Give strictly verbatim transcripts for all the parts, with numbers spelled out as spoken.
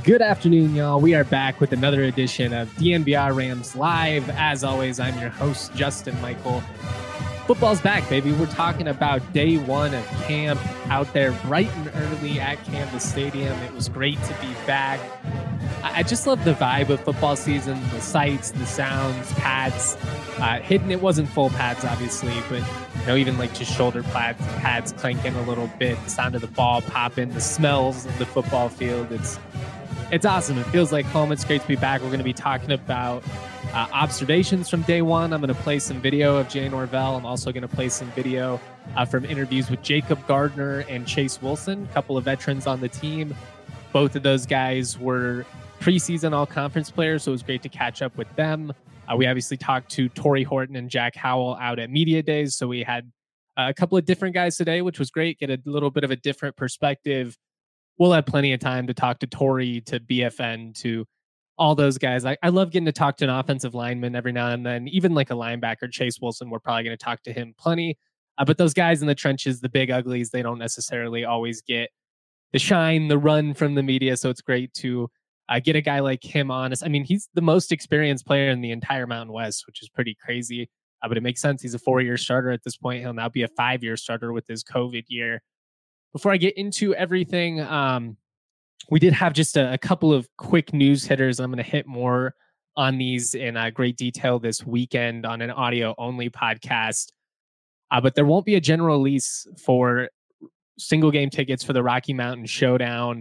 Good afternoon, y'all. We are back with another edition of D N B R Rams Live. As always, I'm your host, Justin Michael. Football's back, baby. We're talking about day one of camp out there bright and early at Canvas Stadium. It was great to be back. I just love the vibe of football season, the sights, the sounds, pads. Uh, hidden, it wasn't full pads, obviously, but you know, even like just shoulder pads, pads clanking a little bit, the sound of the ball popping, the smells of the football field. It's It's awesome. It feels like home. It's great to be back. We're going to be talking about uh, observations from day one. I'm going to play some video of Jay Norvell. I'm also going to play some video uh, from interviews with Jacob Gardner and Chase Wilson, a couple of veterans on the team. Both of those guys were preseason all-conference players, so it was great to catch up with them. Uh, we obviously talked to Torrey Horton and Jack Howell out at Media Days, so we had uh, a couple of different guys today, which was great. Get a little bit of a different perspective. We'll have plenty of time to talk to Torrey, to B F N, to all those guys. I, I love getting to talk to an offensive lineman every now and then, even like a linebacker, Chase Wilson. We're probably going to talk to him plenty. Uh, but those guys in the trenches, the big uglies, they don't necessarily always get the shine, the run from the media. So it's great to uh, get a guy like him on. I mean, he's the most experienced player in the entire Mountain West, which is pretty crazy. Uh, but it makes sense. He's a four-year starter at this point. He'll now be a five-year starter with his COVID year. Before I get into everything, um, we did have just a, a couple of quick news hitters. I'm going to hit more on these in uh, great detail this weekend on an audio-only podcast. Uh, but there won't be a general release for single game tickets for the Rocky Mountain Showdown.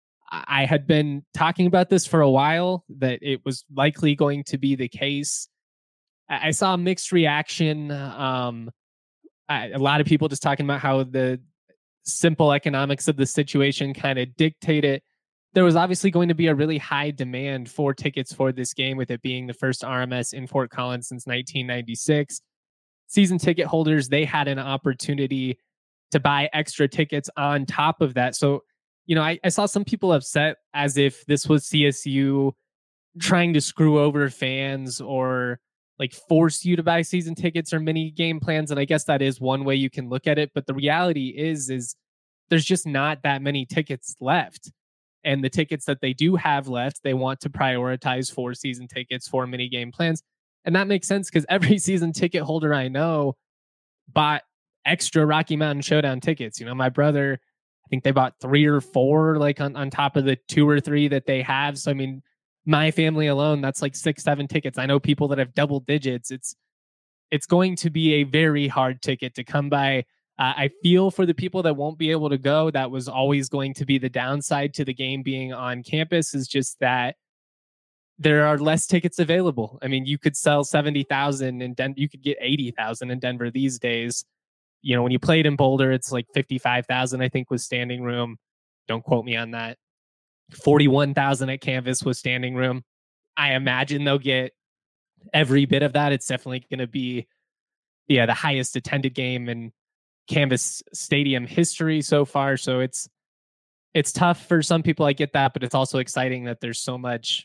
I had been talking about this for a while, that it was likely going to be the case. I, I saw a mixed reaction. Um, I, a lot of people just talking about how the simple economics of the situation kind of dictate it. There was obviously going to be a really high demand for tickets for this game, with it being the first R M S in Fort Collins since nineteen ninety-six. Season ticket holders, they had an opportunity to buy extra tickets on top of that. So, you know, I, I saw some people upset as if this was C S U trying to screw over fans or like force you to buy season tickets or mini game plans. And I guess that is one way you can look at it. But the reality is, is there's just not that many tickets left. And the tickets that they do have left, they want to prioritize for season tickets, for mini game plans. And that makes sense because every season ticket holder I know bought extra Rocky Mountain Showdown tickets. You know, my brother, I think they bought three or four, like on, on top of the two or three that they have. So, I mean, my family alone, that's like six, seven tickets. I know people that have double digits. It's it's going to be a very hard ticket to come by. Uh, I feel for the people that won't be able to go. That was always going to be the downside to the game being on campus, is just that there are less tickets available. I mean, you could sell seventy thousand in Denver. You could get eighty thousand in Denver these days. You know, when you played in Boulder, it's like fifty-five thousand, I think, was standing room. Don't quote me on that. forty-one thousand at Canvas was standing room. I imagine they'll get every bit of that. It's definitely going to be, yeah, the highest attended game in Canvas Stadium history so far. So it's it's tough for some people. I get that, but it's also exciting that there's so much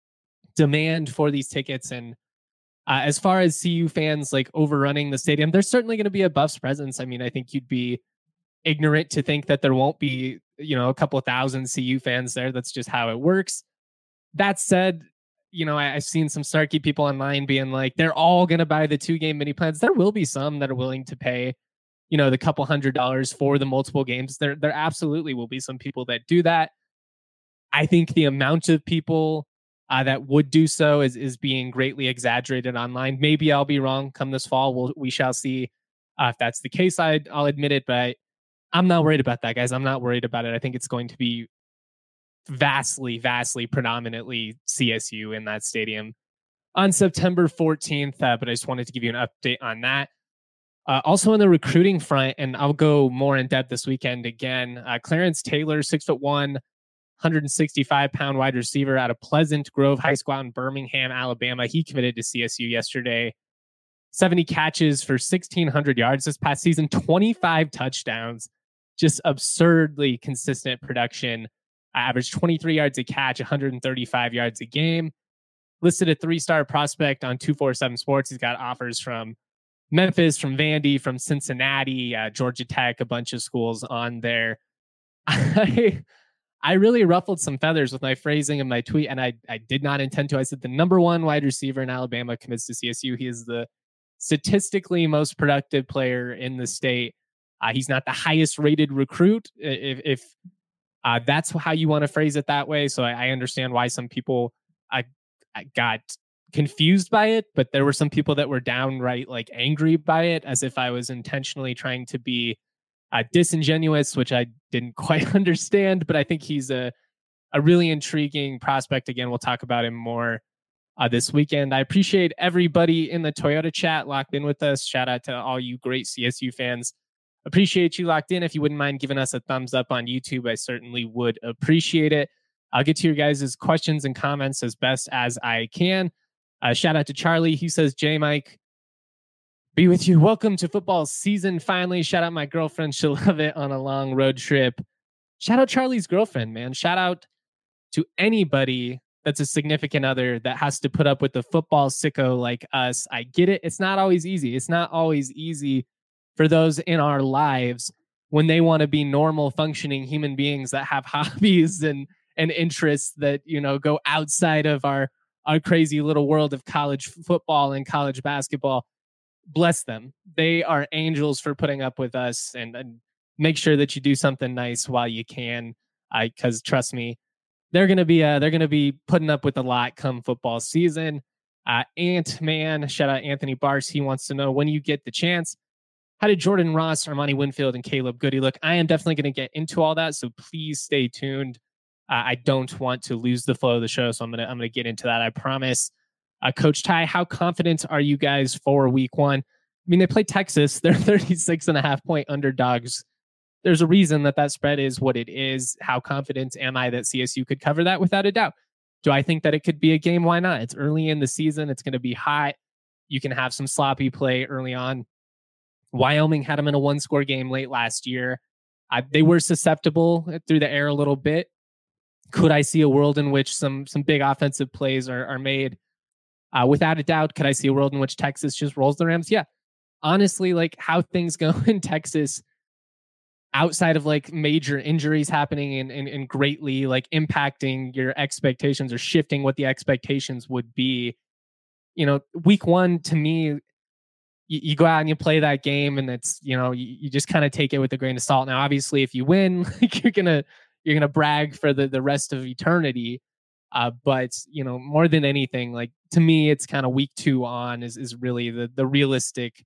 demand for these tickets. And uh, as far as C U fans like overrunning the stadium, there's certainly going to be a Buffs presence. I mean, I think you'd be ignorant to think that there won't be, you know, a couple of thousand C U fans there. That's just how it works. That said, you know, I, I've seen some snarky people online being like, they're all going to buy the two game mini plans. There will be some that are willing to pay, you know, the couple hundred dollars for the multiple games. There, there absolutely will be some people that do that. I think the amount of people uh, that would do so is, is being greatly exaggerated online. Maybe I'll be wrong come this fall. We'll, we shall see uh, if that's the case. I, I'll admit it, but I, I'm not worried about that, guys. I'm not worried about it. I think it's going to be vastly, vastly, predominantly C S U in that stadium on September fourteenth. Uh, but I just wanted to give you an update on that. Uh, also on the recruiting front, and I'll go more in depth this weekend again. Uh, Clarence Taylor, six foot one, one hundred sixty-five pound wide receiver out of Pleasant Grove High School out in Birmingham, Alabama. He committed to C S U yesterday. seventy catches for sixteen hundred yards this past season, twenty-five touchdowns. Just absurdly consistent production. I averaged twenty-three yards a catch, one hundred thirty-five yards a game. Listed a three-star prospect on two forty-seven Sports. He's got offers from Memphis, from Vandy, from Cincinnati, uh, Georgia Tech, a bunch of schools on there. I, I really ruffled some feathers with my phrasing of my tweet, and I, I did not intend to. I said the number one wide receiver in Alabama commits to C S U. He is the statistically most productive player in the state. Uh, he's not the highest rated recruit. If, if uh, that's how you want to phrase it that way. So I, I understand why some people I, I got confused by it, but there were some people that were downright like angry by it, as if I was intentionally trying to be uh, disingenuous, which I didn't quite understand. But I think he's a a really intriguing prospect. Again, we'll talk about him more uh, this weekend. I appreciate everybody in the Toyota chat locked in with us. Shout out to all you great C S U fans. Appreciate you locked in. If you wouldn't mind giving us a thumbs up on YouTube, I certainly would appreciate it. I'll get to your guys' questions and comments as best as I can. Uh, shout out to Charlie. He says, J Mike, be with you. Welcome to football season. Finally, shout out my girlfriend. She'll love it on a long road trip. Shout out Charlie's girlfriend, man. Shout out to anybody that's a significant other that has to put up with the football sicko like us. I get it. It's not always easy. It's not always easy for those in our lives when they want to be normal functioning human beings that have hobbies and, and interests that, you know, go outside of our, our crazy little world of college football and college basketball. Bless them. They are angels for putting up with us, and, and make sure that you do something nice while you can. I, cause trust me, they're going to be, uh, they're going to be putting up with a lot come football season. Uh, Ant Man, shout out Anthony Bars. He wants to know, when you get the chance, how did Jordan Ross, Armani Winfield, and Caleb Goody look? I am definitely going to get into all that, so please stay tuned. Uh, I don't want to lose the flow of the show, so I'm gonna I'm gonna get into that. I promise. Uh, Coach Ty, how confident are you guys for Week One? I mean, they play Texas. They're thirty-six and a half point underdogs. There's a reason that that spread is what it is. How confident am I that C S U could cover that? Without a doubt. Do I think that it could be a game? Why not? It's early in the season. It's going to be hot. You can have some sloppy play early on. Wyoming had them in a one-score game late last year. Uh, they were susceptible through the air a little bit. Could I see a world in which some some big offensive plays are, are made? Uh, without a doubt. Could I see a world in which Texas just rolls the Rams? Yeah. Honestly, like how things go in Texas, outside of like major injuries happening and, and, and greatly like impacting your expectations or shifting what the expectations would be, you know, week one to me, you, you go out and you play that game, and it's, you know, you, you just kind of take it with a grain of salt. Now, obviously, if you win, like you're gonna you're gonna brag for the the rest of eternity. Uh, but you know, more than anything, like to me, it's kind of week two on is is really the the realistic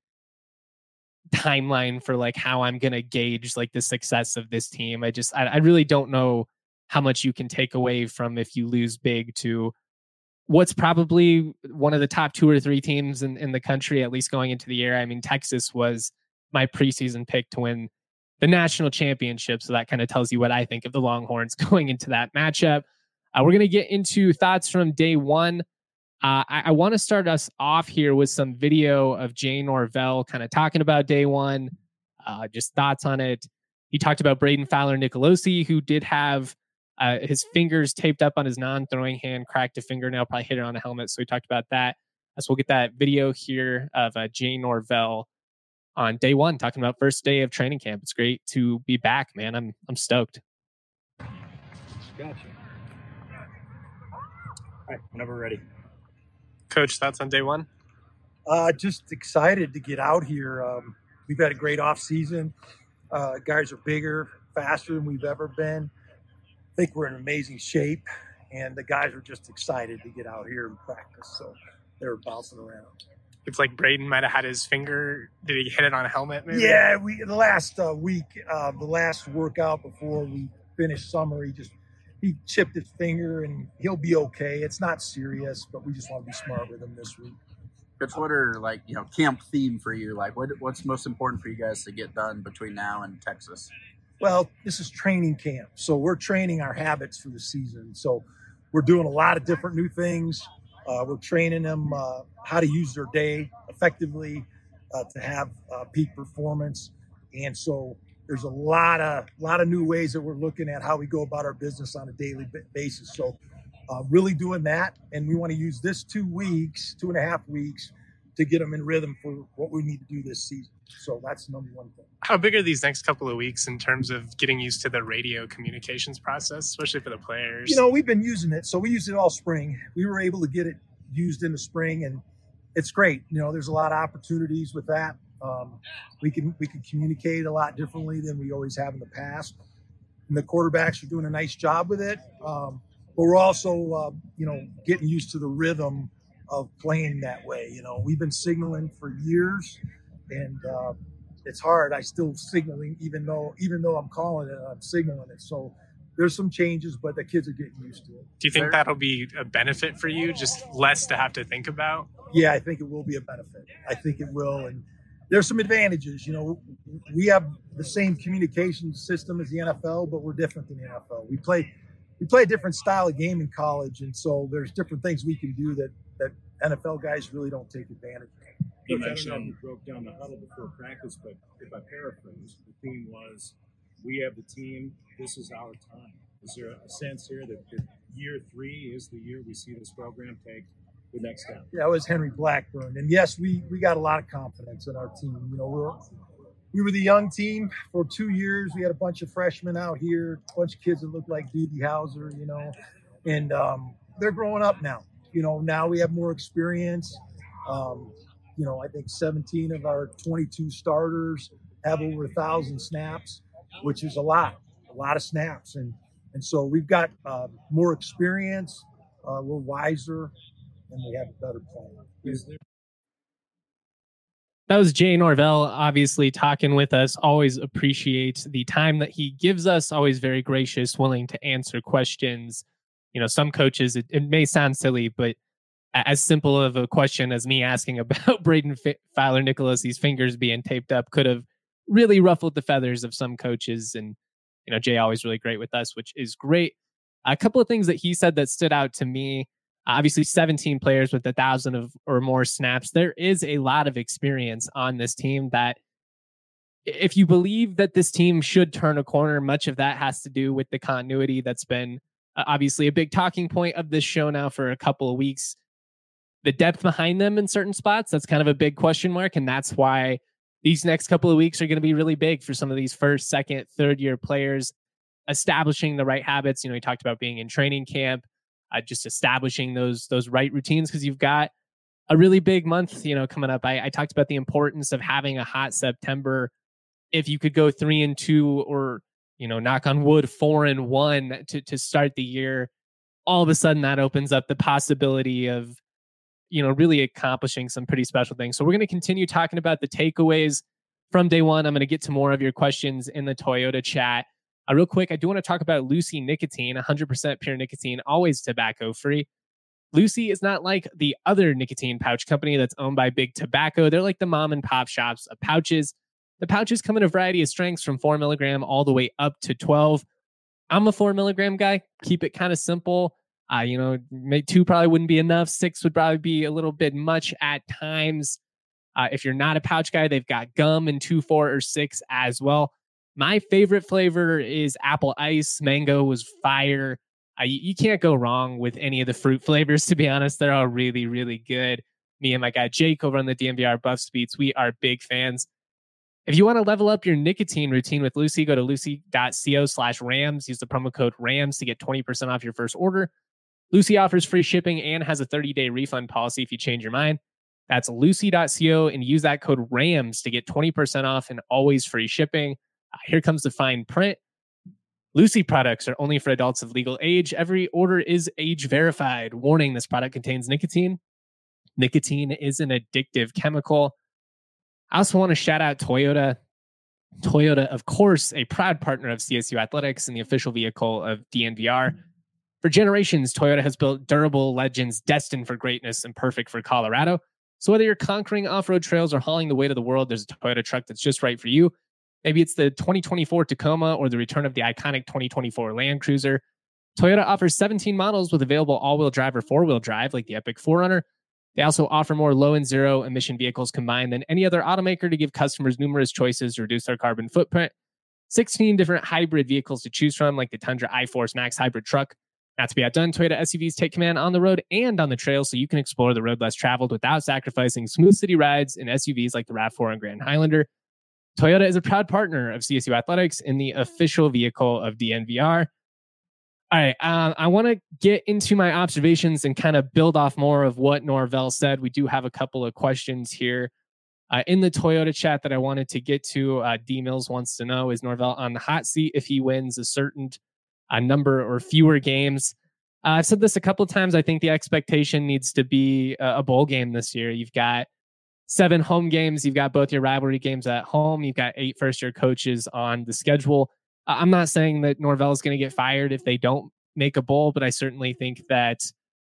timeline for like how I'm gonna gauge like the success of this team. I just I, I really don't know how much you can take away from if you lose big to what's probably one of the top two or three teams in, in the country, at least going into the year. I mean, Texas was my preseason pick to win the national championship. So that kind of tells you what I think of the Longhorns going into that matchup. Uh, we're going to get into thoughts from day one. Uh, I, I want to start us off here with some video of Jay Norvell kind of talking about day one, uh, just thoughts on it. He talked about Braden Fowler Nicolosi, who did have Uh, his fingers taped up on his non-throwing hand, cracked a fingernail, probably hit it on a helmet. So we talked about that. So we'll get that video here of uh, Jay Norvell on day one, talking about first day of training camp. It's great to be back, man. I'm I'm stoked. Gotcha. All right, whenever we're ready. Coach, thoughts on day one? Uh, just excited to get out here. Um, we've had a great off season. Uh, guys are bigger, faster than we've ever been. I think we're in amazing shape, and the guys are just excited to get out here and practice. So they're bouncing around. It's like Braden might have had his finger. Did he hit it on a helmet? Maybe? Yeah, we the last uh, week, uh, the last workout before we finished summer, he just he chipped his finger, and he'll be okay. It's not serious, but we just want to be smart with him this week. Coach, what are like you know camp theme for you? Like, what what's most important for you guys to get done between now and Texas? Well, this is training camp, so we're training our habits for the season. So we're doing a lot of different new things. Uh, we're training them uh, how to use their day effectively uh, to have uh, peak performance. And so there's a lot of lot of new ways that we're looking at how we go about our business on a daily basis. So uh, really doing that, and we want to use this two weeks, two and a half weeks, to get them in rhythm for what we need to do this season. So that's the number one thing. How big are these next couple of weeks in terms of getting used to the radio communications process, especially for the players? You know, we've been using it. So we used it all spring. We were able to get it used in the spring, and it's great. You know, there's a lot of opportunities with that. Um, we can we can communicate a lot differently than we always have in the past. And the quarterbacks are doing a nice job with it. Um, but we're also, uh, you know, getting used to the rhythm of playing that way. You know, we've been signaling for years, and uh, it's hard. I still signaling, even though even though I'm calling it, I'm signaling it. So there's some changes, but the kids are getting used to it. Do you think There- that'll be a benefit for you, just less to have to think about? Yeah, I think it will be a benefit. I think it will, and there's some advantages. You know, we have the same communication system as the N F L, but we're different than the N F L. We play we play a different style of game in college, and so there's different things we can do that that N F L guys really don't take advantage of. You mentioned you broke down the huddle before practice, but if I paraphrase, the theme was, "We have the team. This is our time." Is there a sense here that, that year three is the year we see this program take the next step? Yeah, it was Henry Blackburn, and yes, we we got a lot of confidence in our team. You know, we're we were the young team for two years. We had a bunch of freshmen out here, a bunch of kids that looked like Doogie Howser, you know, and um, they're growing up now. You know, now we have more experience. Um, you know, I think seventeen of our twenty-two starters have over a thousand snaps, which is a lot, a lot of snaps. And, and so we've got uh, more experience. Uh, we're wiser, and we have a better plan. Is there That was Jay Norvell, obviously talking with us. Always appreciate the time that he gives us. Always very gracious, willing to answer questions. You know, some coaches, it, it may sound silly, but as simple of a question as me asking about Braden F- Fowler Nicholas, these fingers being taped up, could have really ruffled the feathers of some coaches. And, you know, Jay always really great with us, which is great. A couple of things that he said that stood out to me. Obviously, seventeen players with a thousand of or more snaps. There is a lot of experience on this team that if you believe that this team should turn a corner, much of that has to do with the continuity that's been uh, obviously a big talking point of this show now for a couple of weeks. The depth behind them in certain spots, that's kind of a big question mark. And that's why these next couple of weeks are going to be really big for some of these first, second, third year players, establishing the right habits. You know, he talked about being in training camp, uh, just establishing those those right routines, because you've got a really big month, you know, coming up. I, I talked about the importance of having a hot September. If you could go three and two, or, you know, knock on wood, four and one to to start the year, all of a sudden that opens up the possibility of, you know, really accomplishing some pretty special things. So we're going to continue talking about the takeaways from day one. I'm going to get to more of your questions in the Toyota chat. Uh, real quick, I do want to talk about Lucy Nicotine, one hundred percent pure nicotine, always tobacco free. Lucy is not like the other nicotine pouch company that's owned by Big Tobacco. They're like the mom and pop shops of pouches. The pouches come in a variety of strengths from four milligram all the way up to twelve. I'm a four milligram guy. Keep it kind of simple. Uh, you know, maybe two probably wouldn't be enough. Six would probably be a little bit much at times. Uh, if you're not a pouch guy, they've got gum in two, four, or six as well. My favorite flavor is apple ice. Mango was fire. Uh, you, you can't go wrong with any of the fruit flavors, to be honest. They're all really, really good. Me and my guy Jake over on the D N V R Buffs Beats, we are big fans. If you want to level up your nicotine routine with Lucy, go to lucy.co slash rams. Use the promo code RAMS to get twenty percent off your first order. Lucy offers free shipping and has a thirty-day refund policy if you change your mind. That's lucy.co and use that code RAMS to get twenty percent off and always free shipping. Uh, here comes the fine print. Lucy products are only for adults of legal age. Every order is age verified. Warning, this product contains nicotine. Nicotine is an addictive chemical. I also want to shout out Toyota. Toyota, of course, a proud partner of C S U Athletics and the official vehicle of D N V R. For generations, Toyota has built durable legends destined for greatness and perfect for Colorado. So whether you're conquering off-road trails or hauling the weight of the world, there's a Toyota truck that's just right for you. Maybe it's the twenty twenty-four Tacoma or the return of the iconic twenty twenty-four Land Cruiser. Toyota offers seventeen models with available all-wheel drive or four-wheel drive, like the Epic four runner. They also offer more low and zero emission vehicles combined than any other automaker to give customers numerous choices to reduce their carbon footprint. sixteen different hybrid vehicles to choose from, like the Tundra iForce Max hybrid truck, Not to be outdone, Toyota S U Vs take command on the road and on the trail, so you can explore the road less traveled without sacrificing smooth city rides in S U Vs like the RAV four and Grand Highlander. Toyota is a proud partner of C S U Athletics and the official vehicle of D N V R. All right, uh, I want to get into my observations and kind of build off more of what Norvell said. We do have a couple of questions here uh, in the Toyota chat that I wanted to get to. Uh, D Mills wants to know, is Norvell on the hot seat if he wins a certain a number or fewer games? Uh, I've said this a couple of times. I think the expectation needs to be a, a bowl game this year. You've got seven home games. You've got both your rivalry games at home. You've got eight first-year coaches on the schedule. Uh, I'm not saying that Norvell is going to get fired if they don't make a bowl, but I certainly think that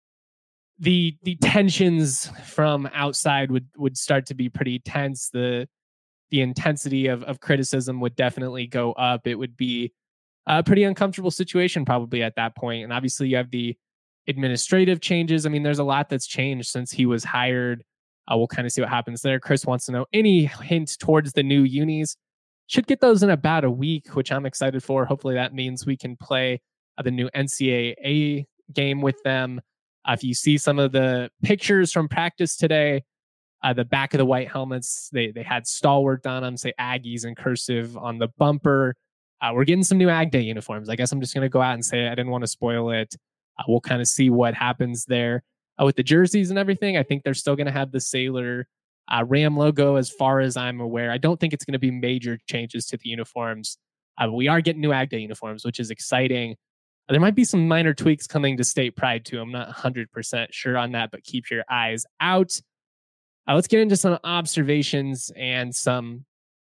the the tensions from outside would would start to be pretty tense. The the intensity of of criticism would definitely go up. It would be a pretty uncomfortable situation probably at that point. And obviously you have the administrative changes. I mean, there's a lot that's changed since he was hired. Uh, we'll kind of see what happens there. Chris wants to know any hint towards the new unis. Should get those in about a week, which I'm excited for. Hopefully that means we can play uh, the new N C double A game with them. Uh, if you see some of the pictures from practice today, uh, the back of the white helmets, they they had stalwart on them, say Aggies in cursive on the bumper. Uh, we're getting some new Ag Day uniforms. I guess I'm just going to go out and say it. I didn't want to spoil it. Uh, we'll kind of see what happens there uh, with the jerseys and everything. I think they're still going to have the Sailor uh, Ram logo as far as I'm aware. I don't think it's going to be major changes to the uniforms. Uh, we are getting new Ag Day uniforms, which is exciting. Uh, there might be some minor tweaks coming to State Pride too. I'm not one hundred percent sure on that, but keep your eyes out. Uh, let's get into some observations and some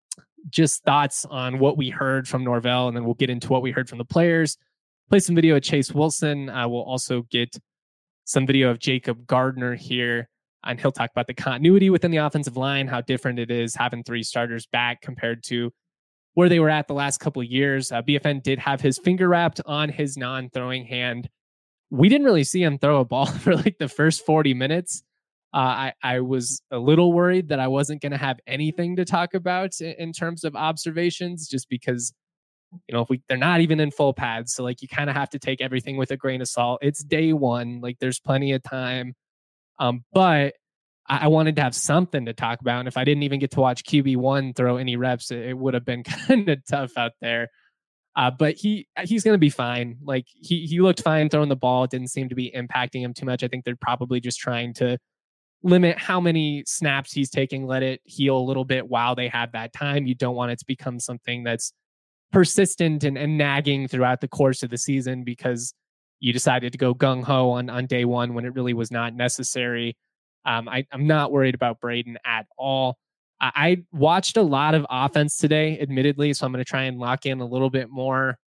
just thoughts on what we heard from Norvell, and then we'll get into what we heard from the players. Play some video of Chase Wilson. Uh, we'll also get some video of Jacob Gardner here, and he'll talk about the continuity within the offensive line, how different it is having three starters back compared to where they were at the last couple of years. Uh, B F N did have his finger wrapped on his non-throwing hand. We didn't really see him throw a ball for like the first forty minutes. Uh, I, I was a little worried that I wasn't going to have anything to talk about in, in terms of observations, just because, you know, if we, they're not even in full pads. So like, you kind of have to take everything with a grain of salt. It's day one. Like there's plenty of time. Um, but I, I wanted to have something to talk about. And if I didn't even get to watch Q B one throw any reps, it, it would have been kind of tough out there. Uh, but he he's going to be fine. Like he, he looked fine throwing the ball. It didn't seem to be impacting him too much. I think they're probably just trying to limit how many snaps he's taking, let it heal a little bit while they have that time. You don't want it to become something that's persistent and, and nagging throughout the course of the season because you decided to go gung-ho on, on day one when it really was not necessary. Um, I, I'm not worried about Braden at all. I, I watched a lot of offense today, admittedly, so I'm going to try and lock in a little bit more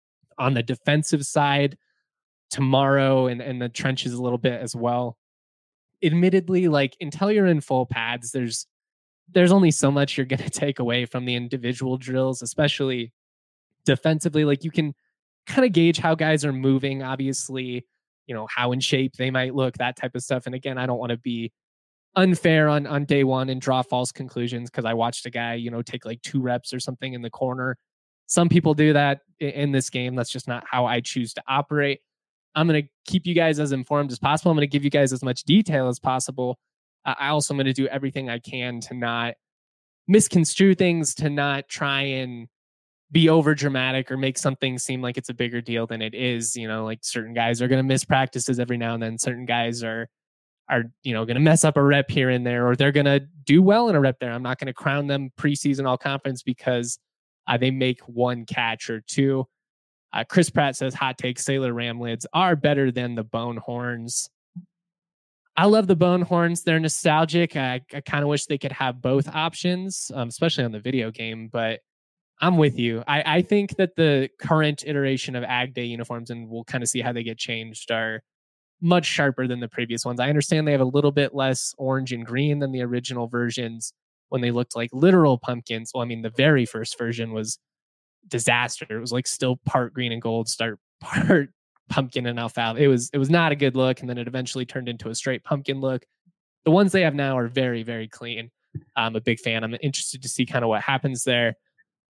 on the defensive side tomorrow and, and the trenches a little bit as well. Admittedly, like until you're in full pads, there's there's only so much you're going to take away from the individual drills, especially defensively. Like you can kind of gauge how guys are moving, obviously, you know, how in shape they might look, that type of stuff. And again, I don't want to be unfair on, on day one and draw false conclusions because I watched a guy, you know, take like two reps or something in the corner. Some people do that in this game. That's just not how I choose to operate. I'm going to keep you guys as informed as possible. I'm going to give you guys as much detail as possible. Uh, I also am going to do everything I can to not misconstrue things, to not try and be over dramatic or make something seem like it's a bigger deal than it is. You know, like certain guys are going to miss practices every now and then. Certain guys are, are, you know, going to mess up a rep here and there, or they're going to do well in a rep there. I'm not going to crown them preseason all conference because uh, they make one catch or two. Uh, Chris Pratt says hot take, Sailor Ram lids are better than the Bone Horns. I love the Bone Horns. They're nostalgic. I, I kind of wish they could have both options, um, especially on the video game, but I'm with you. I, I think that the current iteration of Ag Day uniforms, and we'll kind of see how they get changed, are much sharper than the previous ones. I understand they have a little bit less orange and green than the original versions when they looked like literal pumpkins. Well, I mean, the very first version was disaster. It was like still part green and gold, start part pumpkin and alfalfa. It was it was not a good look, and then it eventually turned into a straight pumpkin look. The ones they have now are very, very clean. I'm a big fan. I'm interested to see kind of what happens there.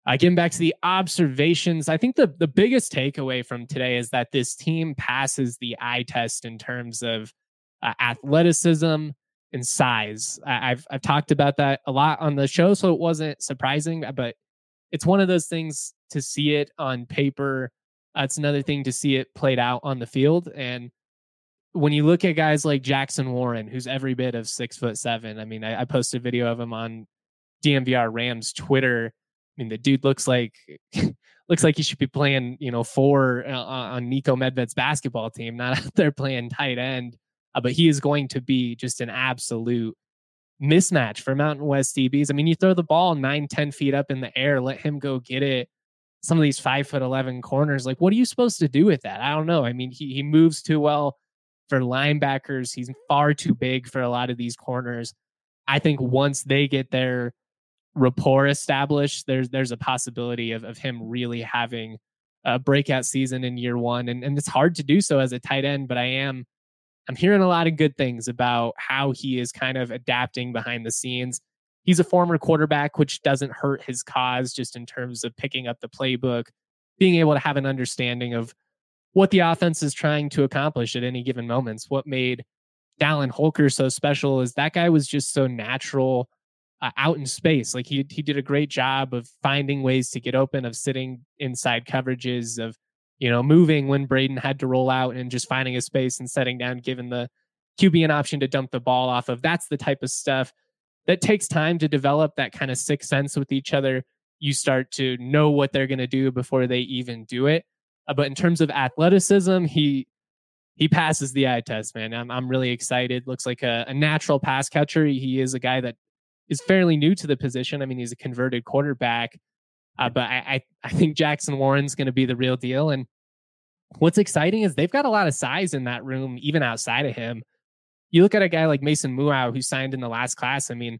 Uh, getting back to the observations, I think the, the biggest takeaway from today is that this team passes the eye test in terms of uh, athleticism and size. I, I've I've talked about that a lot on the show, so it wasn't surprising, but it's one of those things to see it on paper. Uh, it's another thing to see it played out on the field. And when you look at guys like Jackson Warren, who's every bit of six foot seven, I mean, I, I posted a video of him on D M V R Rams Twitter. I mean, the dude looks like looks like he should be playing, you know, four uh, on Niko Medved's basketball team, not out there playing tight end. Uh, but he is going to be just an absolute mismatch for Mountain West D Bs. I mean, you throw the ball nine, ten feet up in the air, let him go get it. Some of these five foot eleven corners, like, what are you supposed to do with that? I don't know. I mean, he he moves too well for linebackers. He's far too big for a lot of these corners. I think once they get their rapport established, there's there's a possibility of, of him really having a breakout season in year one. And, and it's hard to do so as a tight end, but I am I'm hearing a lot of good things about how he is kind of adapting behind the scenes. He's a former quarterback, which doesn't hurt his cause just in terms of picking up the playbook, being able to have an understanding of what the offense is trying to accomplish at any given moments. What made Dallin Holker so special is that guy was just so natural uh, out in space. Like he he did a great job of finding ways to get open, of sitting inside coverages, of, you know, moving when Braden had to roll out and just finding a space and setting down, giving the Q B an option to dump the ball off of. That's the type of stuff that takes time to develop, that kind of sixth sense with each other. You start to know what they're going to do before they even do it. Uh, but in terms of athleticism, he he passes the eye test, man. I'm I'm really excited. Looks like a, a natural pass catcher. He is a guy that is fairly new to the position. I mean, he's a converted quarterback. Uh, but I, I, I think Jackson Warren's going to be the real deal. And what's exciting is they've got a lot of size in that room, even outside of him. You look at a guy like Mason Muau, who signed in the last class. I mean,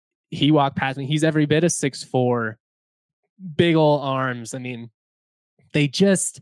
he walked past me. He's every bit of six foot four, big old arms. I mean, they just,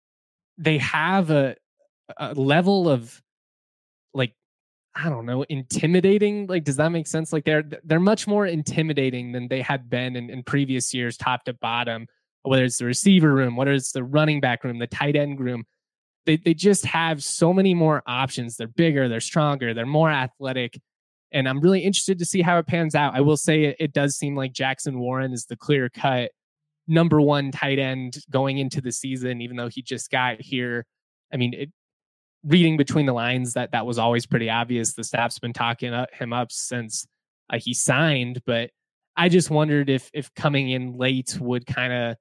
they have a, a level of, like, I don't know, intimidating. Like, does that make sense? Like they're, they're much more intimidating than they had been in, in previous years, top to bottom, whether it's the receiver room, whether it's the running back room, the tight end room. They they just have so many more options. They're bigger, they're stronger, they're more athletic. And I'm really interested to see how it pans out. I will say it, it does seem like Jackson Warren is the clear cut number one tight end going into the season, even though he just got here. I mean, it, reading between the lines, that that was always pretty obvious. The staff's been talking him up since uh, he signed, but I just wondered if if coming in late would kind of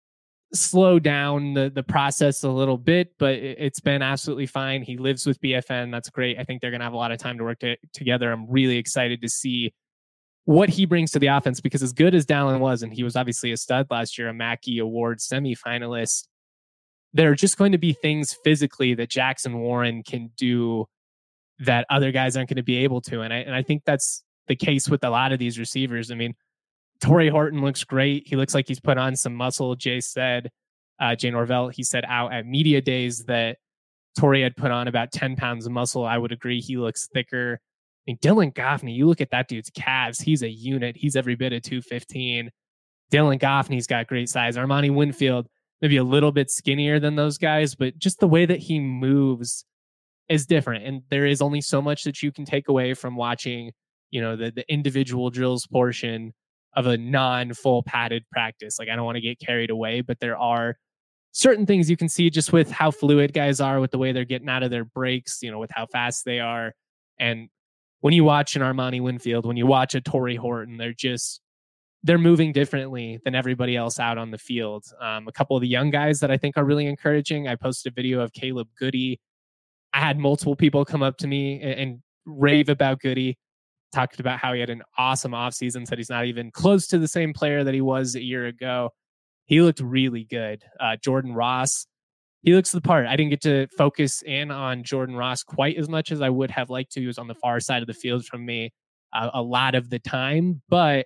slow down the, the process a little bit, but it, it's been absolutely fine. He lives with B F N. That's great. I think they're going to have a lot of time to work to, together. I'm really excited to see what he brings to the offense, because as good as Dallin was, and he was obviously a stud last year, a Mackey Award semifinalist, there are just going to be things physically that Jackson Warren can do that other guys aren't going to be able to. And I, and I think that's the case with a lot of these receivers. I mean, Torrey Horton looks great. He looks like he's put on some muscle. Jay said, uh, Jay Norvell, he said out at media days that Torrey had put on about ten pounds of muscle. I would agree. He looks thicker. I mean, Dylan Goffney, you look at that dude's calves. He's a unit. He's every bit of two fifteen. Dylan Goffney's got great size. Armani Winfield, maybe a little bit skinnier than those guys, but just the way that he moves is different. And there is only so much that you can take away from watching, you know, the, the individual drills portion of a non-full padded practice. Like, I don't want to get carried away, but there are certain things you can see just with how fluid guys are, with the way they're getting out of their breaks, you know, with how fast they are. And when you watch an Armani Winfield, when you watch a Torrey Horton, they're just, they're moving differently than everybody else out on the field. Um, a couple of the young guys that I think are really encouraging. I posted a video of Caleb Goody. I had multiple people come up to me and, and rave about Goody, talked about how he had an awesome offseason, said he's not even close to the same player that he was a year ago. He looked really good. Uh, Jordan Ross, he looks the part. I didn't get to focus in on Jordan Ross quite as much as I would have liked to. He was on the far side of the field from me uh, a lot of the time, but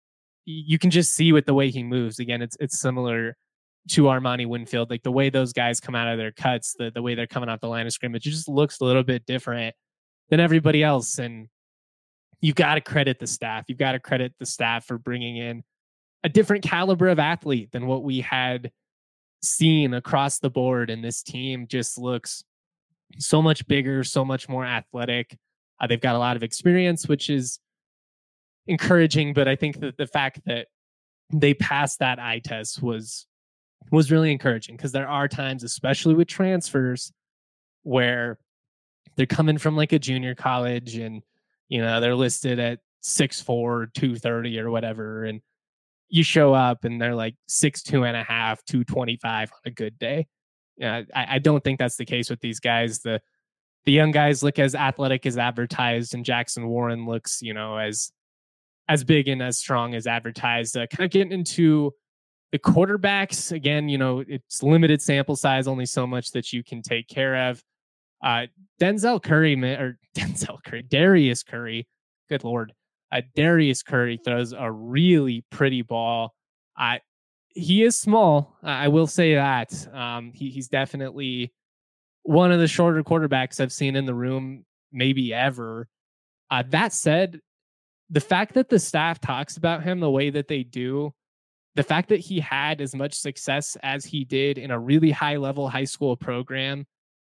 you can just see with the way he moves. Again, it's it's similar to Armani Winfield. Like the way those guys come out of their cuts, the, the way they're coming out the line of scrimmage, it just looks a little bit different than everybody else. And you've got to credit the staff. You've got to credit the staff for bringing in a different caliber of athlete than what we had seen across the board. And this team just looks so much bigger, so much more athletic. Uh, they've got a lot of experience, which is encouraging. But I think that the fact that they passed that eye test was was really encouraging, because there are times, especially with transfers, where they're coming from like a junior college and, you know, they're listed at six four, two thirty or whatever. And you show up and they're like six two and a half, two twenty-five on a good day. Yeah, I, I don't think that's the case with these guys. The the young guys look as athletic as advertised, and Jackson Warren looks, you know, as as big and as strong as advertised. Uh, kind of getting into the quarterbacks again, you know, it's limited sample size, only so much that you can take care of. Uh, Denzel Curry, or Denzel Curry, Darius Curry, good Lord. Uh, Darius Curry throws a really pretty ball. Uh, he is small. I will say that. Um, he, he's definitely one of the shorter quarterbacks I've seen in the room, maybe ever. Uh, that said, the fact that the staff talks about him the way that they do, the fact that he had as much success as he did in a really high level high school program,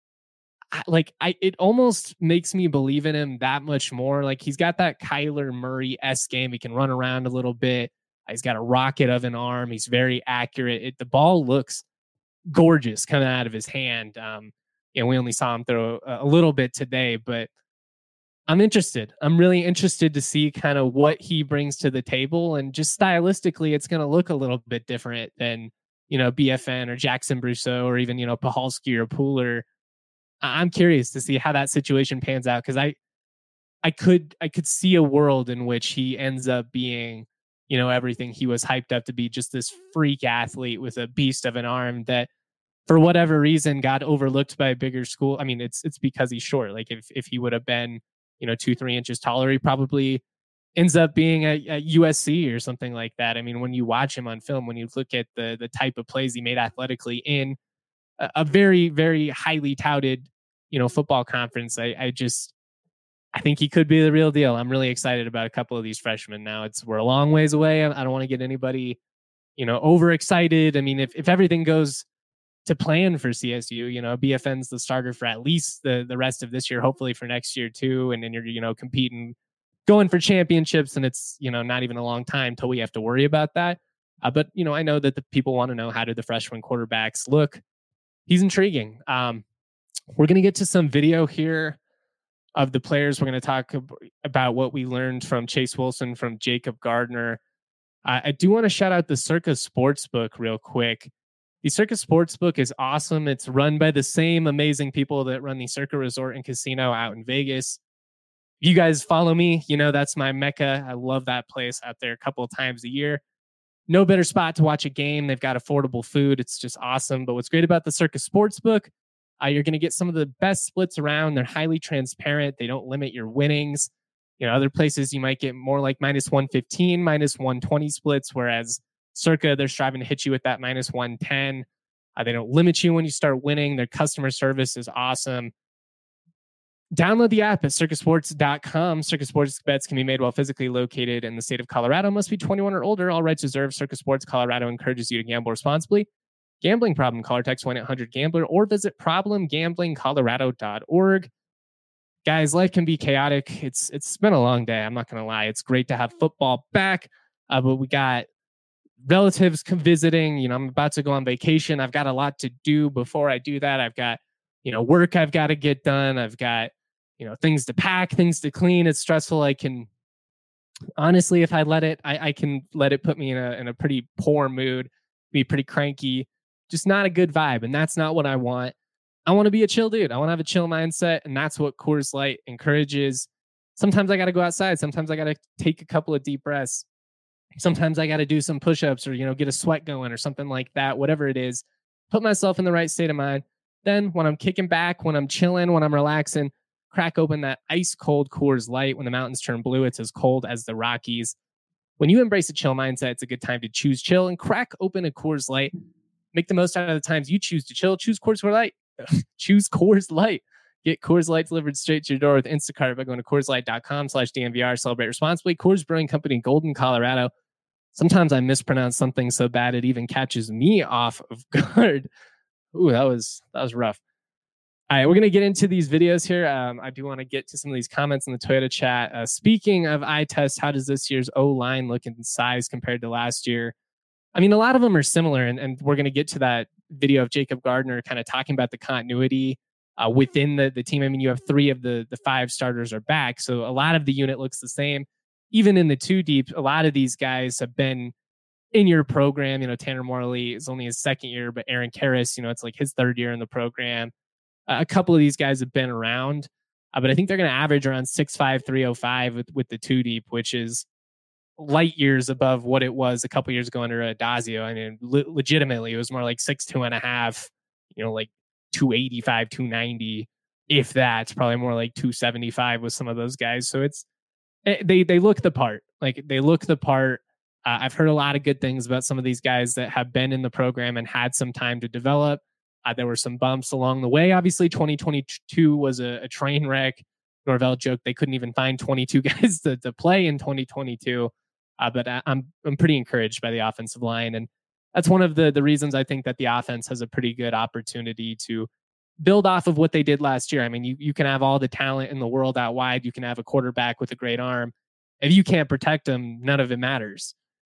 I, like I, it almost makes me believe in him that much more. Like, he's got that Kyler Murray-esque game. He can run around a little bit. He's got a rocket of an arm. He's very accurate. It, the ball looks gorgeous coming out of his hand. Um, you know, we only saw him throw a, a little bit today, but I'm interested. I'm really interested to see kind of what he brings to the table, and just stylistically, it's going to look a little bit different than, you know, B F N or Jackson Brousseau or even, you know, Pahalski or Pooler. I'm curious to see how that situation pans out, because I, I could, I could see a world in which he ends up being, you know, everything he was hyped up to be, just this freak athlete with a beast of an arm that, for whatever reason, got overlooked by a bigger school. I mean, it's it's because he's short. Like, if if he would have been, you know, two, three inches taller, he probably ends up being at, at U S C or something like that. I mean, when you watch him on film, when you look at the the type of plays he made athletically in a, a very, very highly touted, you know, football conference, I, I just, I think he could be the real deal. I'm really excited about a couple of these freshmen. Now, it's, we're a long ways away. I, I don't want to get anybody, you know, overexcited. I mean, if, if everything goes to plan for C S U, you know, B F N's the starter for at least the, the rest of this year, hopefully for next year too. And then you're, you know, competing, going for championships, and it's, you know, not even a long time till we have to worry about that. Uh, but, you know, I know that the people want to know, how do the freshman quarterbacks look? He's intriguing. Um, we're going to get to some video here of the players. We're going to talk ab- about what we learned from Chase Wilson, from Jacob Gardner. Uh, I do want to shout out the Circa Sportsbook real quick. The Circa Sportsbook is awesome. It's run by the same amazing people that run the Circa Resort and Casino out in Vegas. You guys follow me, you know, that's my mecca. I love that place out there a couple of times a year. No better spot to watch a game. They've got affordable food. It's just awesome. But what's great about the Circa Sportsbook, uh, you're going to get some of the best splits around. They're highly transparent. They don't limit your winnings. You know, other places you might get more like minus one fifteen, minus one twenty splits, whereas Circa, they're striving to hit you with that minus one ten. Uh, they don't limit you when you start winning. Their customer service is awesome. Download the app at circa sports dot com. Circa Sports bets can be made while physically located in the state of Colorado. Must be twenty-one or older. All rights reserved. Circa Sports Colorado encourages you to gamble responsibly. Gambling problem? Call or text one eight hundred gambler or visit problem gambling colorado dot org. Guys, life can be chaotic. It's It's been a long day. I'm not going to lie. It's great to have football back, uh, but we got relatives come visiting. You know, I'm about to go on vacation. I've got a lot to do before I do that. I've got, you know, work I've got to get done. I've got, you know, things to pack, things to clean. It's stressful. I can, honestly, if I let it, I, I can let it put me in a in a pretty poor mood, be pretty cranky, just not a good vibe. And that's not what I want. I want to be a chill dude. I want to have a chill mindset. And that's what Coors Light encourages. Sometimes I got to go outside. Sometimes I got to take a couple of deep breaths. Sometimes I got to do some push-ups or, you know, get a sweat going or something like that, whatever it is, put myself in the right state of mind. Then when I'm kicking back, when I'm chilling, when I'm relaxing, crack open that ice cold Coors Light. When the mountains turn blue, it's as cold as the Rockies. When you embrace a chill mindset, it's a good time to choose chill and crack open a Coors Light. Make the most out of the times you choose to chill. Choose Coors Light. Choose Coors Light. Get Coors Light delivered straight to your door with Instacart by going to Coors Light dot com slash D N V R. Celebrate responsibly. Coors Brewing Company, Golden, Colorado. Sometimes I mispronounce something so bad it even catches me off of guard. Ooh, that was that was rough. All right, we're going to get into these videos here. Um, I do want to get to some of these comments in the Toyota chat. Uh, speaking of eye test, how does this year's O-line look in size compared to last year? I mean, a lot of them are similar, and, and we're going to get to that video of Jacob Gardner kind of talking about the continuity uh, within the, the team. I mean, you have three of the, the five starters are back, so a lot of the unit looks the same. Even in the two deep, a lot of these guys have been in your program. You know, Tanner Morley is only his second year, but Aaron Karras, you know, it's like his third year in the program. Uh, a couple of these guys have been around, uh, but I think they're going to average around six five, three oh five with, with the two deep, which is light years above what it was a couple years ago under Adazio. I mean, le- legitimately, it was more like six two and a half, you know, like two eighty-five, two ninety, if that's probably more like two seventy-five with some of those guys. So it's, they, they look the part, like they look the part. Uh, I've heard a lot of good things about some of these guys that have been in the program and had some time to develop. Uh, there were some bumps along the way. Obviously, twenty twenty-two was a, a train wreck. Norvell joked they couldn't even find twenty-two guys to, to play in twenty twenty-two. Uh, but I, I'm I'm pretty encouraged by the offensive line, and that's one of the the reasons I think that the offense has a pretty good opportunity to build off of what they did last year. I mean, you you can have all the talent in the world out wide. You can have a quarterback with a great arm. If you can't protect them, none of it matters.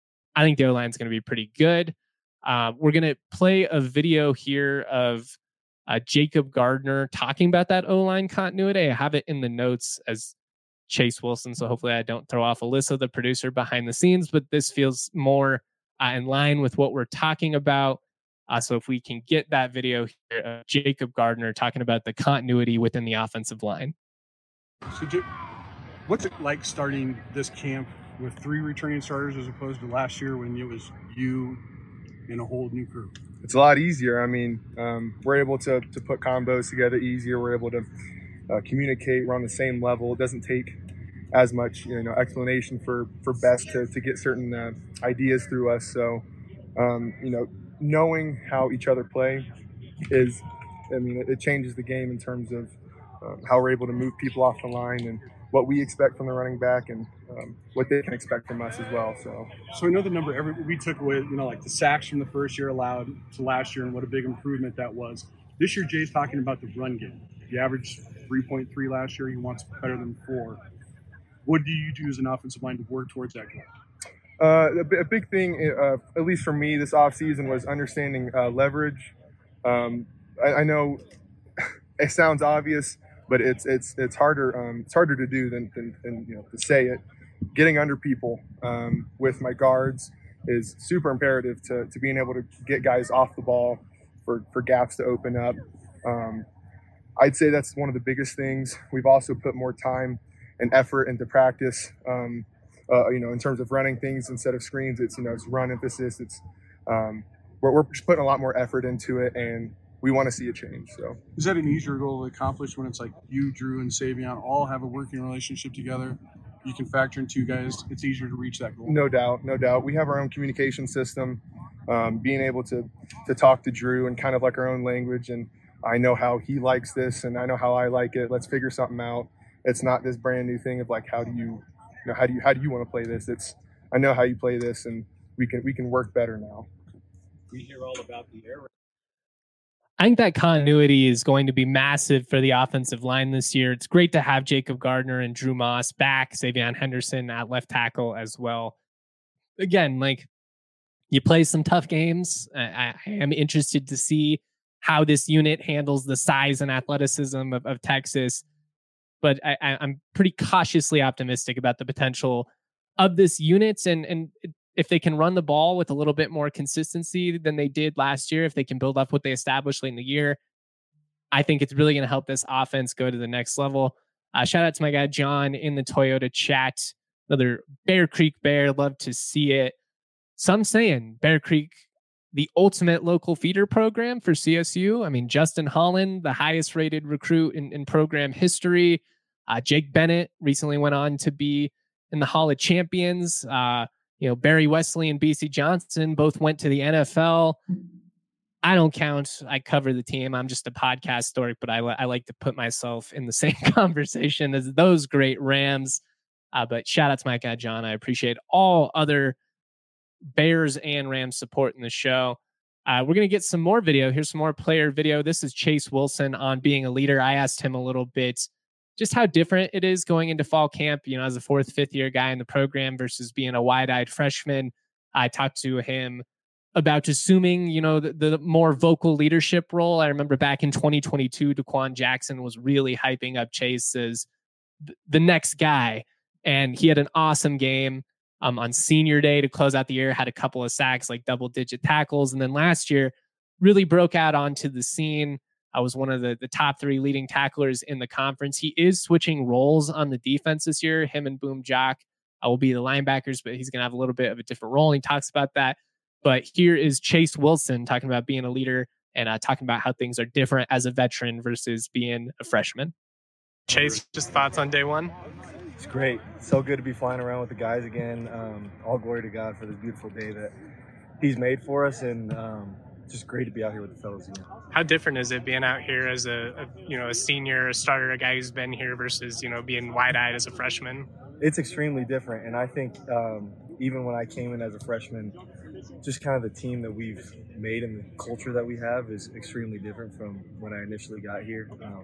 I think the O-line is going to be pretty good. Uh, we're going to play a video here of uh, Jacob Gardner talking about that O-line continuity. I have it in the notes as Chase Wilson, so hopefully I don't throw off Alyssa, the producer behind the scenes, but this feels more uh, in line with what we're talking about. Uh, so if we can get that video here of Jacob Gardner talking about the continuity within the offensive line. So, Jake, what's it like starting this camp with three returning starters as opposed to last year when it was you and a whole new crew? It's a lot easier. I mean, um, we're able to to put combos together easier. We're able to uh, communicate. We're on the same level. It doesn't take as much, you know, explanation for for Best to to get certain uh, ideas through us. So, um, you know, knowing how each other play is, I mean, it, it changes the game in terms of um, how we're able to move people off the line and what we expect from the running back and um, what they can expect from us as well. So, so I know the number every we took away, you know, like the sacks from the first year allowed to last year, and what a big improvement that was. This year, Jay's talking about the run game. You averaged three point three last year. He wants better than four. What do you do as an offensive line to work towards that goal? Uh, a, a big thing, uh, at least for me, this offseason was understanding uh, leverage. Um, I, I know it sounds obvious, but it's it's it's harder um, it's harder to do than, than, than you know to say it. Getting under people um, with my guards is super imperative to, to being able to get guys off the ball for, for gaps to open up. Um, I'd say that's one of the biggest things. We've also put more time and effort into practice. Um, uh, you know, in terms of running things instead of screens, it's you know it's run emphasis. It's um, we're we're just putting a lot more effort into it, and we want to see a change. So, is that an easier goal to accomplish when it's like you, Drew, and Savion all have a working relationship together? You can factor in two guys. It's easier to reach that goal. No doubt, no doubt. We have our own communication system. Um, being able to to talk to Drew and kind of like our own language, and I know how he likes this, and I know how I like it. Let's figure something out. It's not this brand new thing of like how do you, you know, how do you how do you want to play this? It's I know how you play this, and we can we can work better now. We hear all about the air. I think that continuity is going to be massive for the offensive line this year. It's great to have Jacob Gardner and Drew Moss back, Savion Henderson at left tackle as well. Again, like you play some tough games. I, I am interested to see how this unit handles the size and athleticism of, of Texas. But I, I, I'm pretty cautiously optimistic about the potential of this unit. And, and if they can run the ball with a little bit more consistency than they did last year, if they can build up what they established late in the year, I think it's really going to help this offense go to the next level. Uh, shout out to my guy, John, in the Toyota chat. Another Bear Creek Bear. Love to see it. Some saying Bear Creek, the ultimate local feeder program for C S U. I mean, Justin Holland, the highest rated recruit in, in program history. Uh, Jake Bennett recently went on to be in the Hall of Champions. Uh, you know, Barry Wesley and B C Johnson both went to the N F L. I don't count. I cover the team. I'm just a podcast story, but I, I like to put myself in the same conversation as those great Rams. Uh, but shout out to my guy, John. I appreciate all other Bears and Rams support in the show. Uh, we're going to get some more video. Here's some more player video. This is Chase Wilson on being a leader. I asked him a little bit just how different it is going into fall camp, you know, as a fourth, fifth year guy in the program versus being a wide-eyed freshman. I talked to him about assuming, you know, the, the more vocal leadership role. I remember back in twenty twenty-two, DeQuan Jackson was really hyping up Chase as th- the next guy. And he had an awesome game um, on senior day to close out the year, had a couple of sacks, like double digit tackles. And then last year really broke out onto the scene. I was one of the, the top three leading tacklers in the conference. He is switching roles on the defense this year. Him and Boom Jock uh, will be the linebackers, but he's going to have a little bit of a different role. And he talks about that. But here is Chase Wilson talking about being a leader and uh, talking about how things are different as a veteran versus being a freshman. Chase, just thoughts on day one? It's great. So good to be flying around with the guys again. Um, all glory to God for this beautiful day that he's made for us, and um, just great to be out here with the fellas again. How different is it being out here as a, a you know a senior, a starter, a guy who's been here versus you know being wide-eyed as a freshman? It's extremely different, and I think um, even when I came in as a freshman, just kind of the team that we've made and the culture that we have is extremely different from when I initially got here. Um,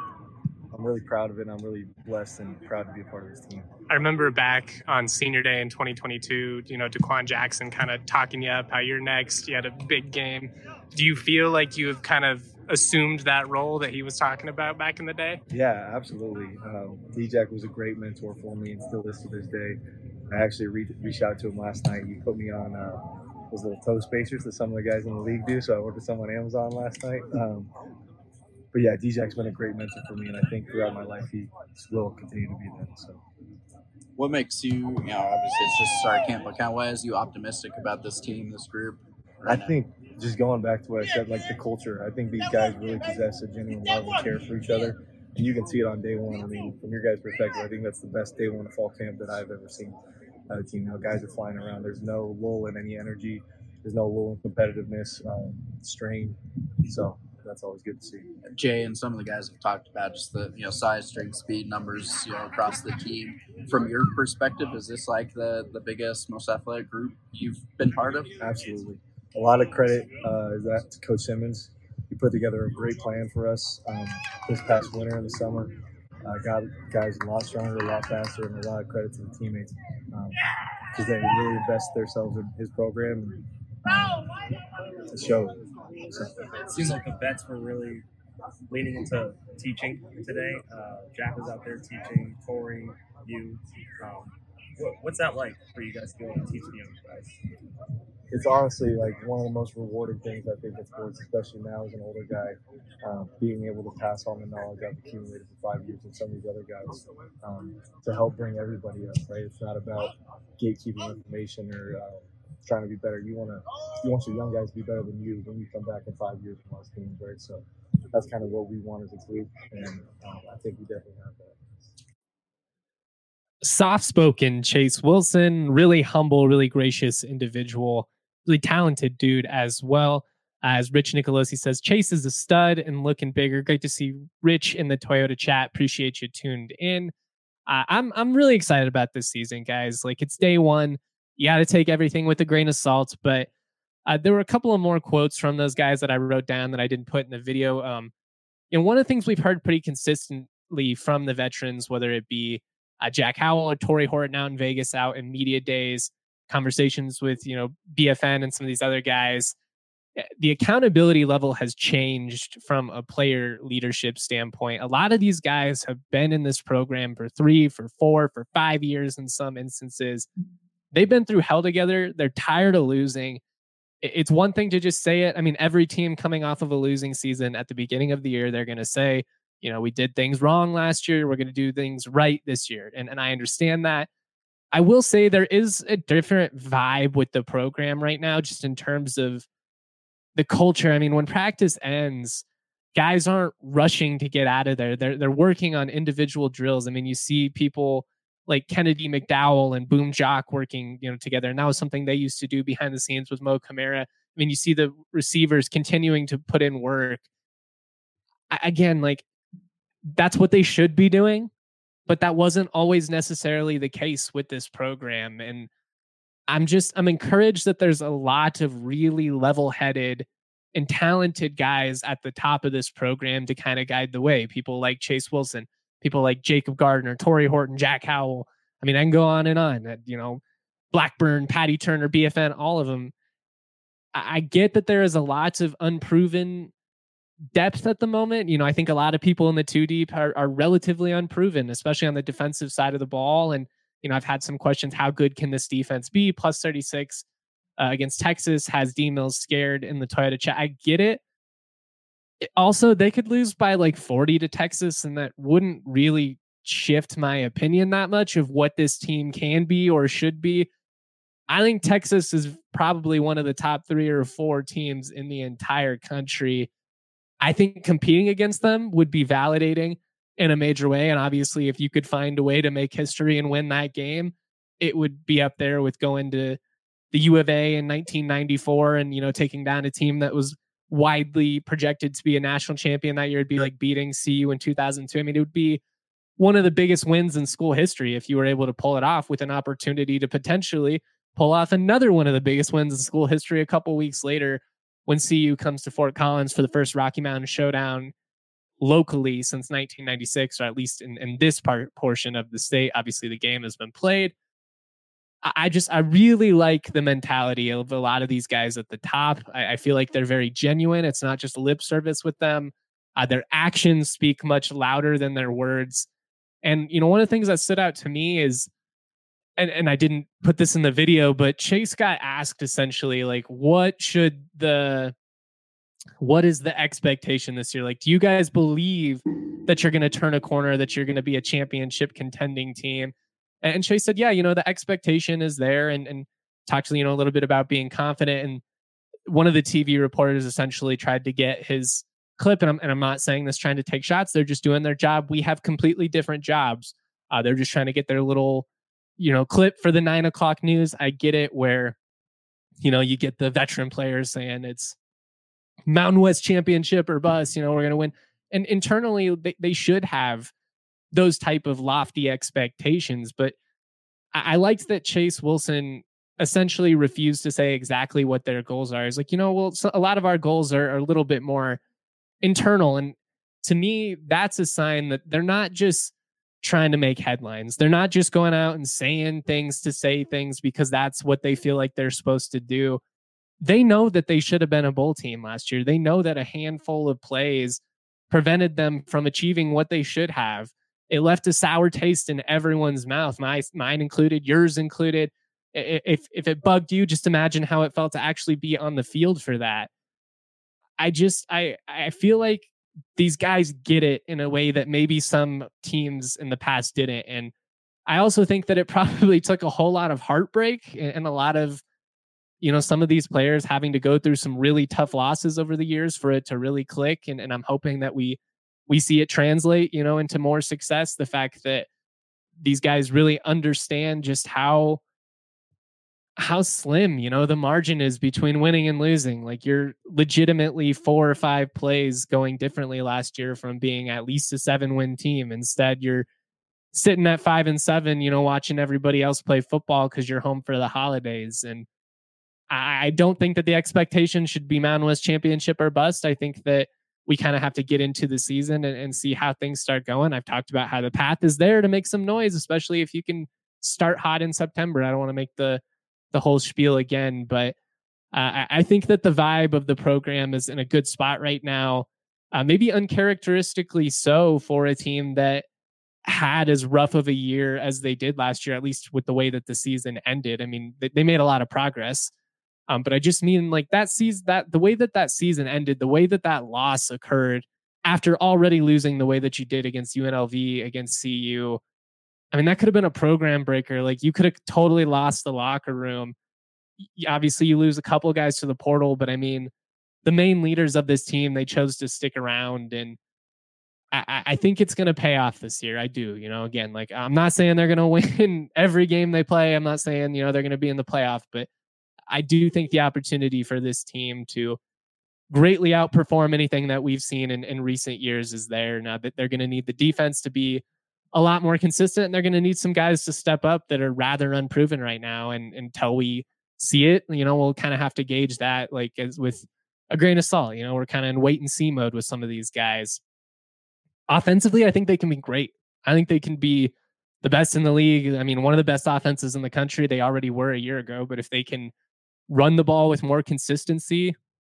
I'm really proud of it, and I'm really blessed and proud to be a part of this team. I remember back on senior day in twenty twenty-two, you know, DeQuan Jackson kind of talking you up, how you're next. You had a big game. Do you feel like you have kind of assumed that role that he was talking about back in the day? Yeah, absolutely. Um, D-Jack was a great mentor for me and still is to this day. I actually re- reached out to him last night. He put me on uh, those little toe spacers that some of the guys in the league do, so I ordered some on Amazon last night. Um, But yeah, D-Jack's been a great mentor for me, and I think throughout my life he will continue to be that. So, what makes you, you know, obviously it's just start camp, but kind of why is you optimistic about this team, this group? Right I now? think just going back to what I said, like the culture, I think these guys really possess a genuine love and care for each other, and you can see it on day one. I mean, from your guys' perspective, I think that's the best day one of fall camp that I've ever seen. Uh, the team, you know, guys are flying around. There's no lull in any energy. There's no lull in competitiveness, um, strain. So. That's always good to see. Jay and some of the guys have talked about just the you know size, strength, speed numbers you know across the team. From your perspective, is this like the the biggest, most athletic group you've been part of? Absolutely. A lot of credit uh, is that to Coach Simmons. He put together a great plan for us um, this past winter and the summer. Uh, got guys a lot stronger, a lot faster, and a lot of credit to the teammates because um, they really invested themselves in his program. And, um, it showed. So. It seems like the vets were really leaning into teaching today. Uh, Jack was out there teaching, Tori, you. Um, what, what's that like for you guys to be able to teach the young guys? It's honestly like one of the most rewarding things I think in sports, especially now as an older guy, um, being able to pass on the knowledge I've accumulated for five years with some of these other guys um, to help bring everybody up, right? It's not about gatekeeping information or uh, trying to be better. You want to, you want your young guys to be better than you when you come back in five years from most teams, right? So that's kind of what we want as a group, and um, I think we definitely have that. Soft-spoken Chase Wilson, really humble, really gracious individual, really talented dude as well. As Rich Nicolosi says, Chase is a stud and looking bigger. Great to see Rich in the Toyota chat. Appreciate you tuned in. Uh, I'm I'm really excited about this season, guys. Like, it's day one. You got to take everything with a grain of salt, but uh, there were a couple of more quotes from those guys that I wrote down that I didn't put in the video. Um, you know, one of the things we've heard pretty consistently from the veterans, whether it be uh, Jack Howell or Torrey Horton out in Vegas, out in media days, conversations with, you know, B F N and some of these other guys, the accountability level has changed from a player leadership standpoint. A lot of these guys have been in this program for three, for four, for five years in some instances. They've been through hell together. They're tired of losing. It's one thing to just say it. I mean, every team coming off of a losing season at the beginning of the year, they're going to say, you know, we did things wrong last year. We're going to do things right this year. And, and I understand that. I will say there is a different vibe with the program right now, just in terms of the culture. I mean, when practice ends, guys aren't rushing to get out of there. They're, they're working on individual drills. I mean, you see people like Kennedy McDowell and Boom Jock working, you know, together. And that was something they used to do behind the scenes with Mo Camara. I mean, you see the receivers continuing to put in work. I, again, like, that's what they should be doing, but that wasn't always necessarily the case with this program. And I'm just, I'm encouraged that there's a lot of really level-headed and talented guys at the top of this program to kind of guide the way. People like Chase Wilson, people like Jacob Gardner, Torrey Horton, Jack Howell. I mean, I can go on and on. You know, Blackburn, Patty Turner, B F N, all of them. I get that there is a lot of unproven depth at the moment. You know, I think a lot of people in the two deep are, are relatively unproven, especially on the defensive side of the ball. And, you know, I've had some questions. How good can this defense be? Plus thirty-six uh, against Texas has D Mills scared in the Toyota chat. I get it. it. Also, they could lose by like forty to Texas, and that wouldn't really shift my opinion that much of what this team can be or should be. I think Texas is probably one of the top three or four teams in the entire country. I think competing against them would be validating in a major way. And obviously, if you could find a way to make history and win that game, it would be up there with going to the U of A in nineteen ninety-four and, you know, taking down a team that was widely projected to be a national champion that year. It'd be like beating C U in two thousand two. I mean, it would be one of the biggest wins in school history if you were able to pull it off, with an opportunity to potentially pull off another one of the biggest wins in school history a couple weeks later when C U comes to Fort Collins for the first Rocky Mountain Showdown locally since nineteen ninety-six, or at least in, in this part portion of the state. Obviously, the game has been played. I, I just, I really like the mentality of a lot of these guys at the top. I, I feel like they're very genuine. It's not just lip service with them. Uh, their actions speak much louder than their words. And, you know, one of the things that stood out to me is, And, and I didn't put this in the video, but Chase got asked essentially, like, what should the, what is the expectation this year? Like, do you guys believe that you're going to turn a corner, that you're going to be a championship contending team? And Chase said, yeah, you know, the expectation is there, and, and talked, you know, a little bit about being confident. And one of the T V reporters essentially tried to get his clip. And I'm, and I'm not saying this trying to take shots. They're just doing their job. We have completely different jobs. Uh, they're just trying to get their little, you know, clip for the nine o'clock news. I get it, where, you know, you get the veteran players saying it's Mountain West championship or bust, you know, we're going to win. And internally, they, they should have those type of lofty expectations. But I, I liked that Chase Wilson essentially refused to say exactly what their goals are. He's like, you know, well, so a lot of our goals are, are a little bit more internal. And to me, that's a sign that they're not just trying to make headlines. They're not just going out and saying things to say things because that's what they feel like they're supposed to do. They know that they should have been a bowl team last year. They know that a handful of plays prevented them from achieving what they should have. It left a sour taste in everyone's mouth, my, mine included, yours included. If, if it bugged you, just imagine how it felt to actually be on the field for that. I just, I, I feel like these guys get it in a way that maybe some teams in the past didn't. And I also think that it probably took a whole lot of heartbreak and a lot of, you know, some of these players having to go through some really tough losses over the years for it to really click. And, and I'm hoping that we, we see it translate, you know, into more success. The fact that these guys really understand just how, how slim, you know, the margin is between winning and losing. Like, you're legitimately four or five plays going differently last year from being at least a seven win team. Instead, you're sitting at five and seven, you know, watching everybody else play football because you're home for the holidays. And I don't think that the expectation should be Mountain West championship or bust. I think that we kind of have to get into the season and, and see how things start going. I've talked about how the path is there to make some noise, especially if you can start hot in September. I don't want to make the the whole spiel again, but uh, I think that the vibe of the program is in a good spot right now. Uh, maybe uncharacteristically so for a team that had as rough of a year as they did last year, at least with the way that the season ended. I mean, they, they made a lot of progress. Um, but I just mean like that season, that the way that that season ended, the way that that loss occurred after already losing the way that you did against U N L V, against C U. I mean, that could have been a program breaker. Like, you could have totally lost the locker room. Obviously, you lose a couple of guys to the portal, but I mean, the main leaders of this team, they chose to stick around. And I, I think it's going to pay off this year. I do, you know, again, like, I'm not saying they're going to win every game they play. I'm not saying, you know, they're going to be in the playoff, but I do think the opportunity for this team to greatly outperform anything that we've seen in, in recent years is there. Now that they're going to need the defense to be a lot more consistent, and they're going to need some guys to step up that are rather unproven right now. And until we see it, you know, we'll kind of have to gauge that like as with a grain of salt. You know, we're kind of in wait and see mode with some of these guys. Offensively, I think they can be great. I think they can be the best in the league. I mean, one of the best offenses in the country. They already were a year ago, but if they can run the ball with more consistency,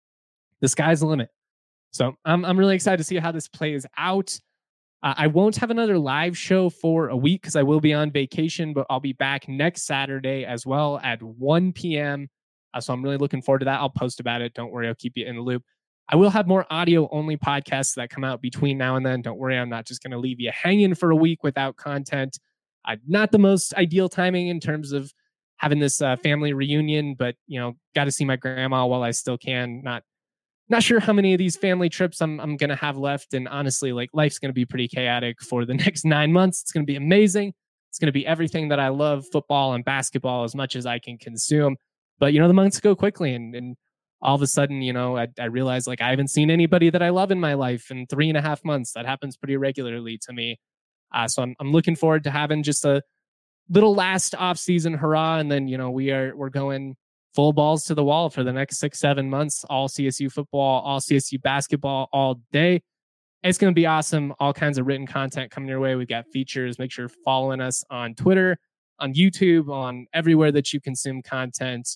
the sky's the limit. So I'm I'm really excited to see how this plays out. Uh, I won't have another live show for a week because I will be on vacation, but I'll be back next Saturday as well at one p.m. Uh, so I'm really looking forward to that. I'll post about it. Don't worry, I'll keep you in the loop. I will have more audio-only podcasts that come out between now and then. Don't worry, I'm not just going to leave you hanging for a week without content. Uh, not the most ideal timing in terms of having this uh, family reunion, but you know, got to see my grandma while I still can. Not Not sure how many of these family trips I'm I'm going to have left. And honestly, like life's going to be pretty chaotic for the next nine months. It's going to be amazing. It's going to be everything that I love, football and basketball, as much as I can consume. But, you know, the months go quickly. And, and all of a sudden, you know, I, I realize like I haven't seen anybody that I love in my life in three and a half months. That happens pretty regularly to me. Uh, so I'm I'm looking forward to having just a little last off season hurrah. And then, you know, we are we're going full balls to the wall for the next six, seven months, all C S U football, all C S U basketball all day. It's going to be awesome. All kinds of written content coming your way. We've got features. Make sure you're following us on Twitter, on YouTube, on everywhere that you consume content.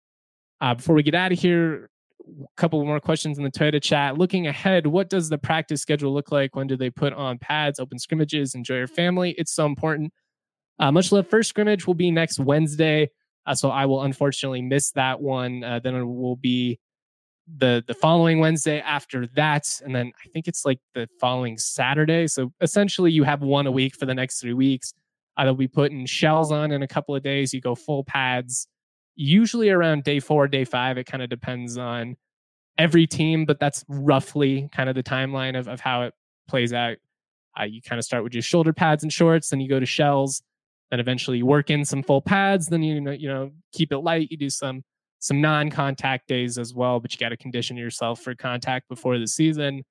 Uh, before we get out of here, a couple more questions in the Toyota chat. Looking ahead, what does the practice schedule look like? When do they put on pads, open scrimmages, enjoy your family? It's so important. Uh, much love. First scrimmage will be next Wednesday. Uh, so I will unfortunately miss that one. Uh, then it will be the the following Wednesday after that. And then I think it's like the following Saturday. So essentially you have one a week for the next three weeks. Uh, they'll be putting shells on in a couple of days. You go full pads, usually around day four, day five. It kind of depends on every team, but that's roughly kind of the timeline of, of how it plays out. Uh, you kind of start with your shoulder pads and shorts, then you go to shells. Then eventually you work in some full pads. Then you know, you know, keep it light. You do some some non-contact days as well, but you got to condition yourself for contact before the season.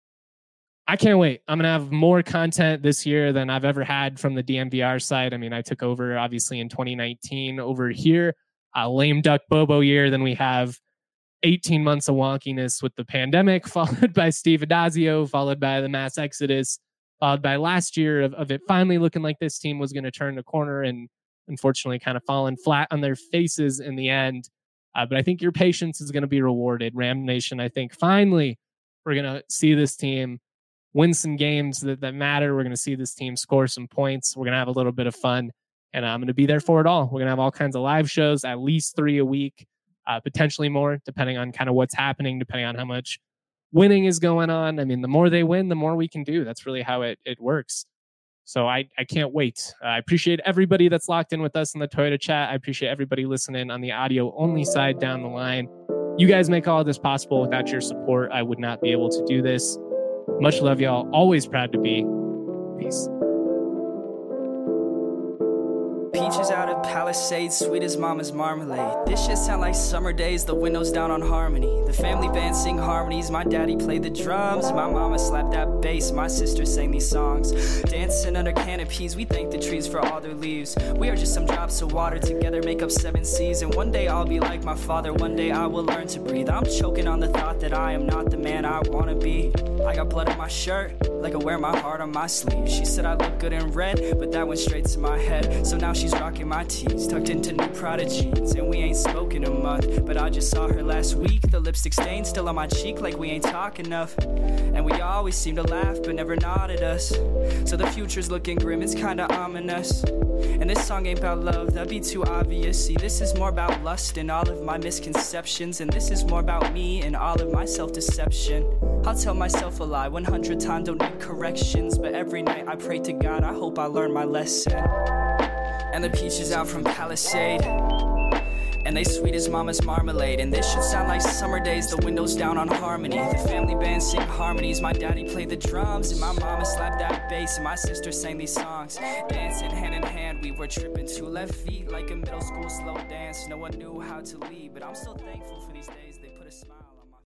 I can't wait. I'm gonna have more content this year than I've ever had from the D M V R side. I mean, I took over obviously in twenty nineteen over here, a lame duck Bobo year. Then we have eighteen months of wonkiness with the pandemic, followed by Steve Adazio, followed by the mass exodus. Followed by last year of, of it finally looking like this team was going to turn the corner and unfortunately kind of falling flat on their faces in the end. Uh, but I think your patience is going to be rewarded. Ram Nation, I think finally we're going to see this team win some games that, that matter. We're going to see this team score some points. We're going to have a little bit of fun, and I'm going to be there for it all. We're going to have all kinds of live shows, at least three a week, uh, potentially more, depending on kind of what's happening, depending on how much winning is going on. I mean, the more they win, the more we can do. That's really how it, it works. So I, I can't wait. Uh, I appreciate everybody that's locked in with us in the Toyota chat. I appreciate everybody listening on the audio only side down the line. You guys make all of this possible. Without your support, I would not be able to do this. Much love, y'all. Always proud to be. Peace. Peaches out of Palisades, sweet as mama's marmalade. This shit sound like summer days, the windows down on Harmony. The family band sing harmonies, my daddy played the drums. My mama slapped that bass, my sister sang these songs. Dancing under canopies, we thank the trees for all their leaves. We are just some drops of water, together make up seven seas. And one day I'll be like my father, one day I will learn to breathe. I'm choking on the thought that I am not the man I wanna be. I got blood on my shirt, like I wear my heart on my sleeve. She said I look good in red, but that went straight to my head. So now she's rocking my tees, tucked into new Prada jeans. And we ain't spoken a month, but I just saw her last week. The lipstick stain still on my cheek, like we ain't talk enough. And we always seem to laugh, but never nod at us. So the future's looking grim, it's kinda ominous. And this song ain't about love, that'd be too obvious. See, this is more about lust and all of my misconceptions. And this is more about me and all of my self-deception. I'll tell myself a lie one hundred times, don't need corrections. But every night I pray to God, I hope I learn my lesson. And the peaches out from Palisade, and they sweet as mama's marmalade. And this should sound like summer days, the windows down on Harmony. The family band sing harmonies, my daddy played the drums. And my mama slapped that bass, and my sister sang these songs. Dancing hand in hand, we were tripping two left feet like a middle school slow dance. No one knew how to lead, but I'm still thankful for these days.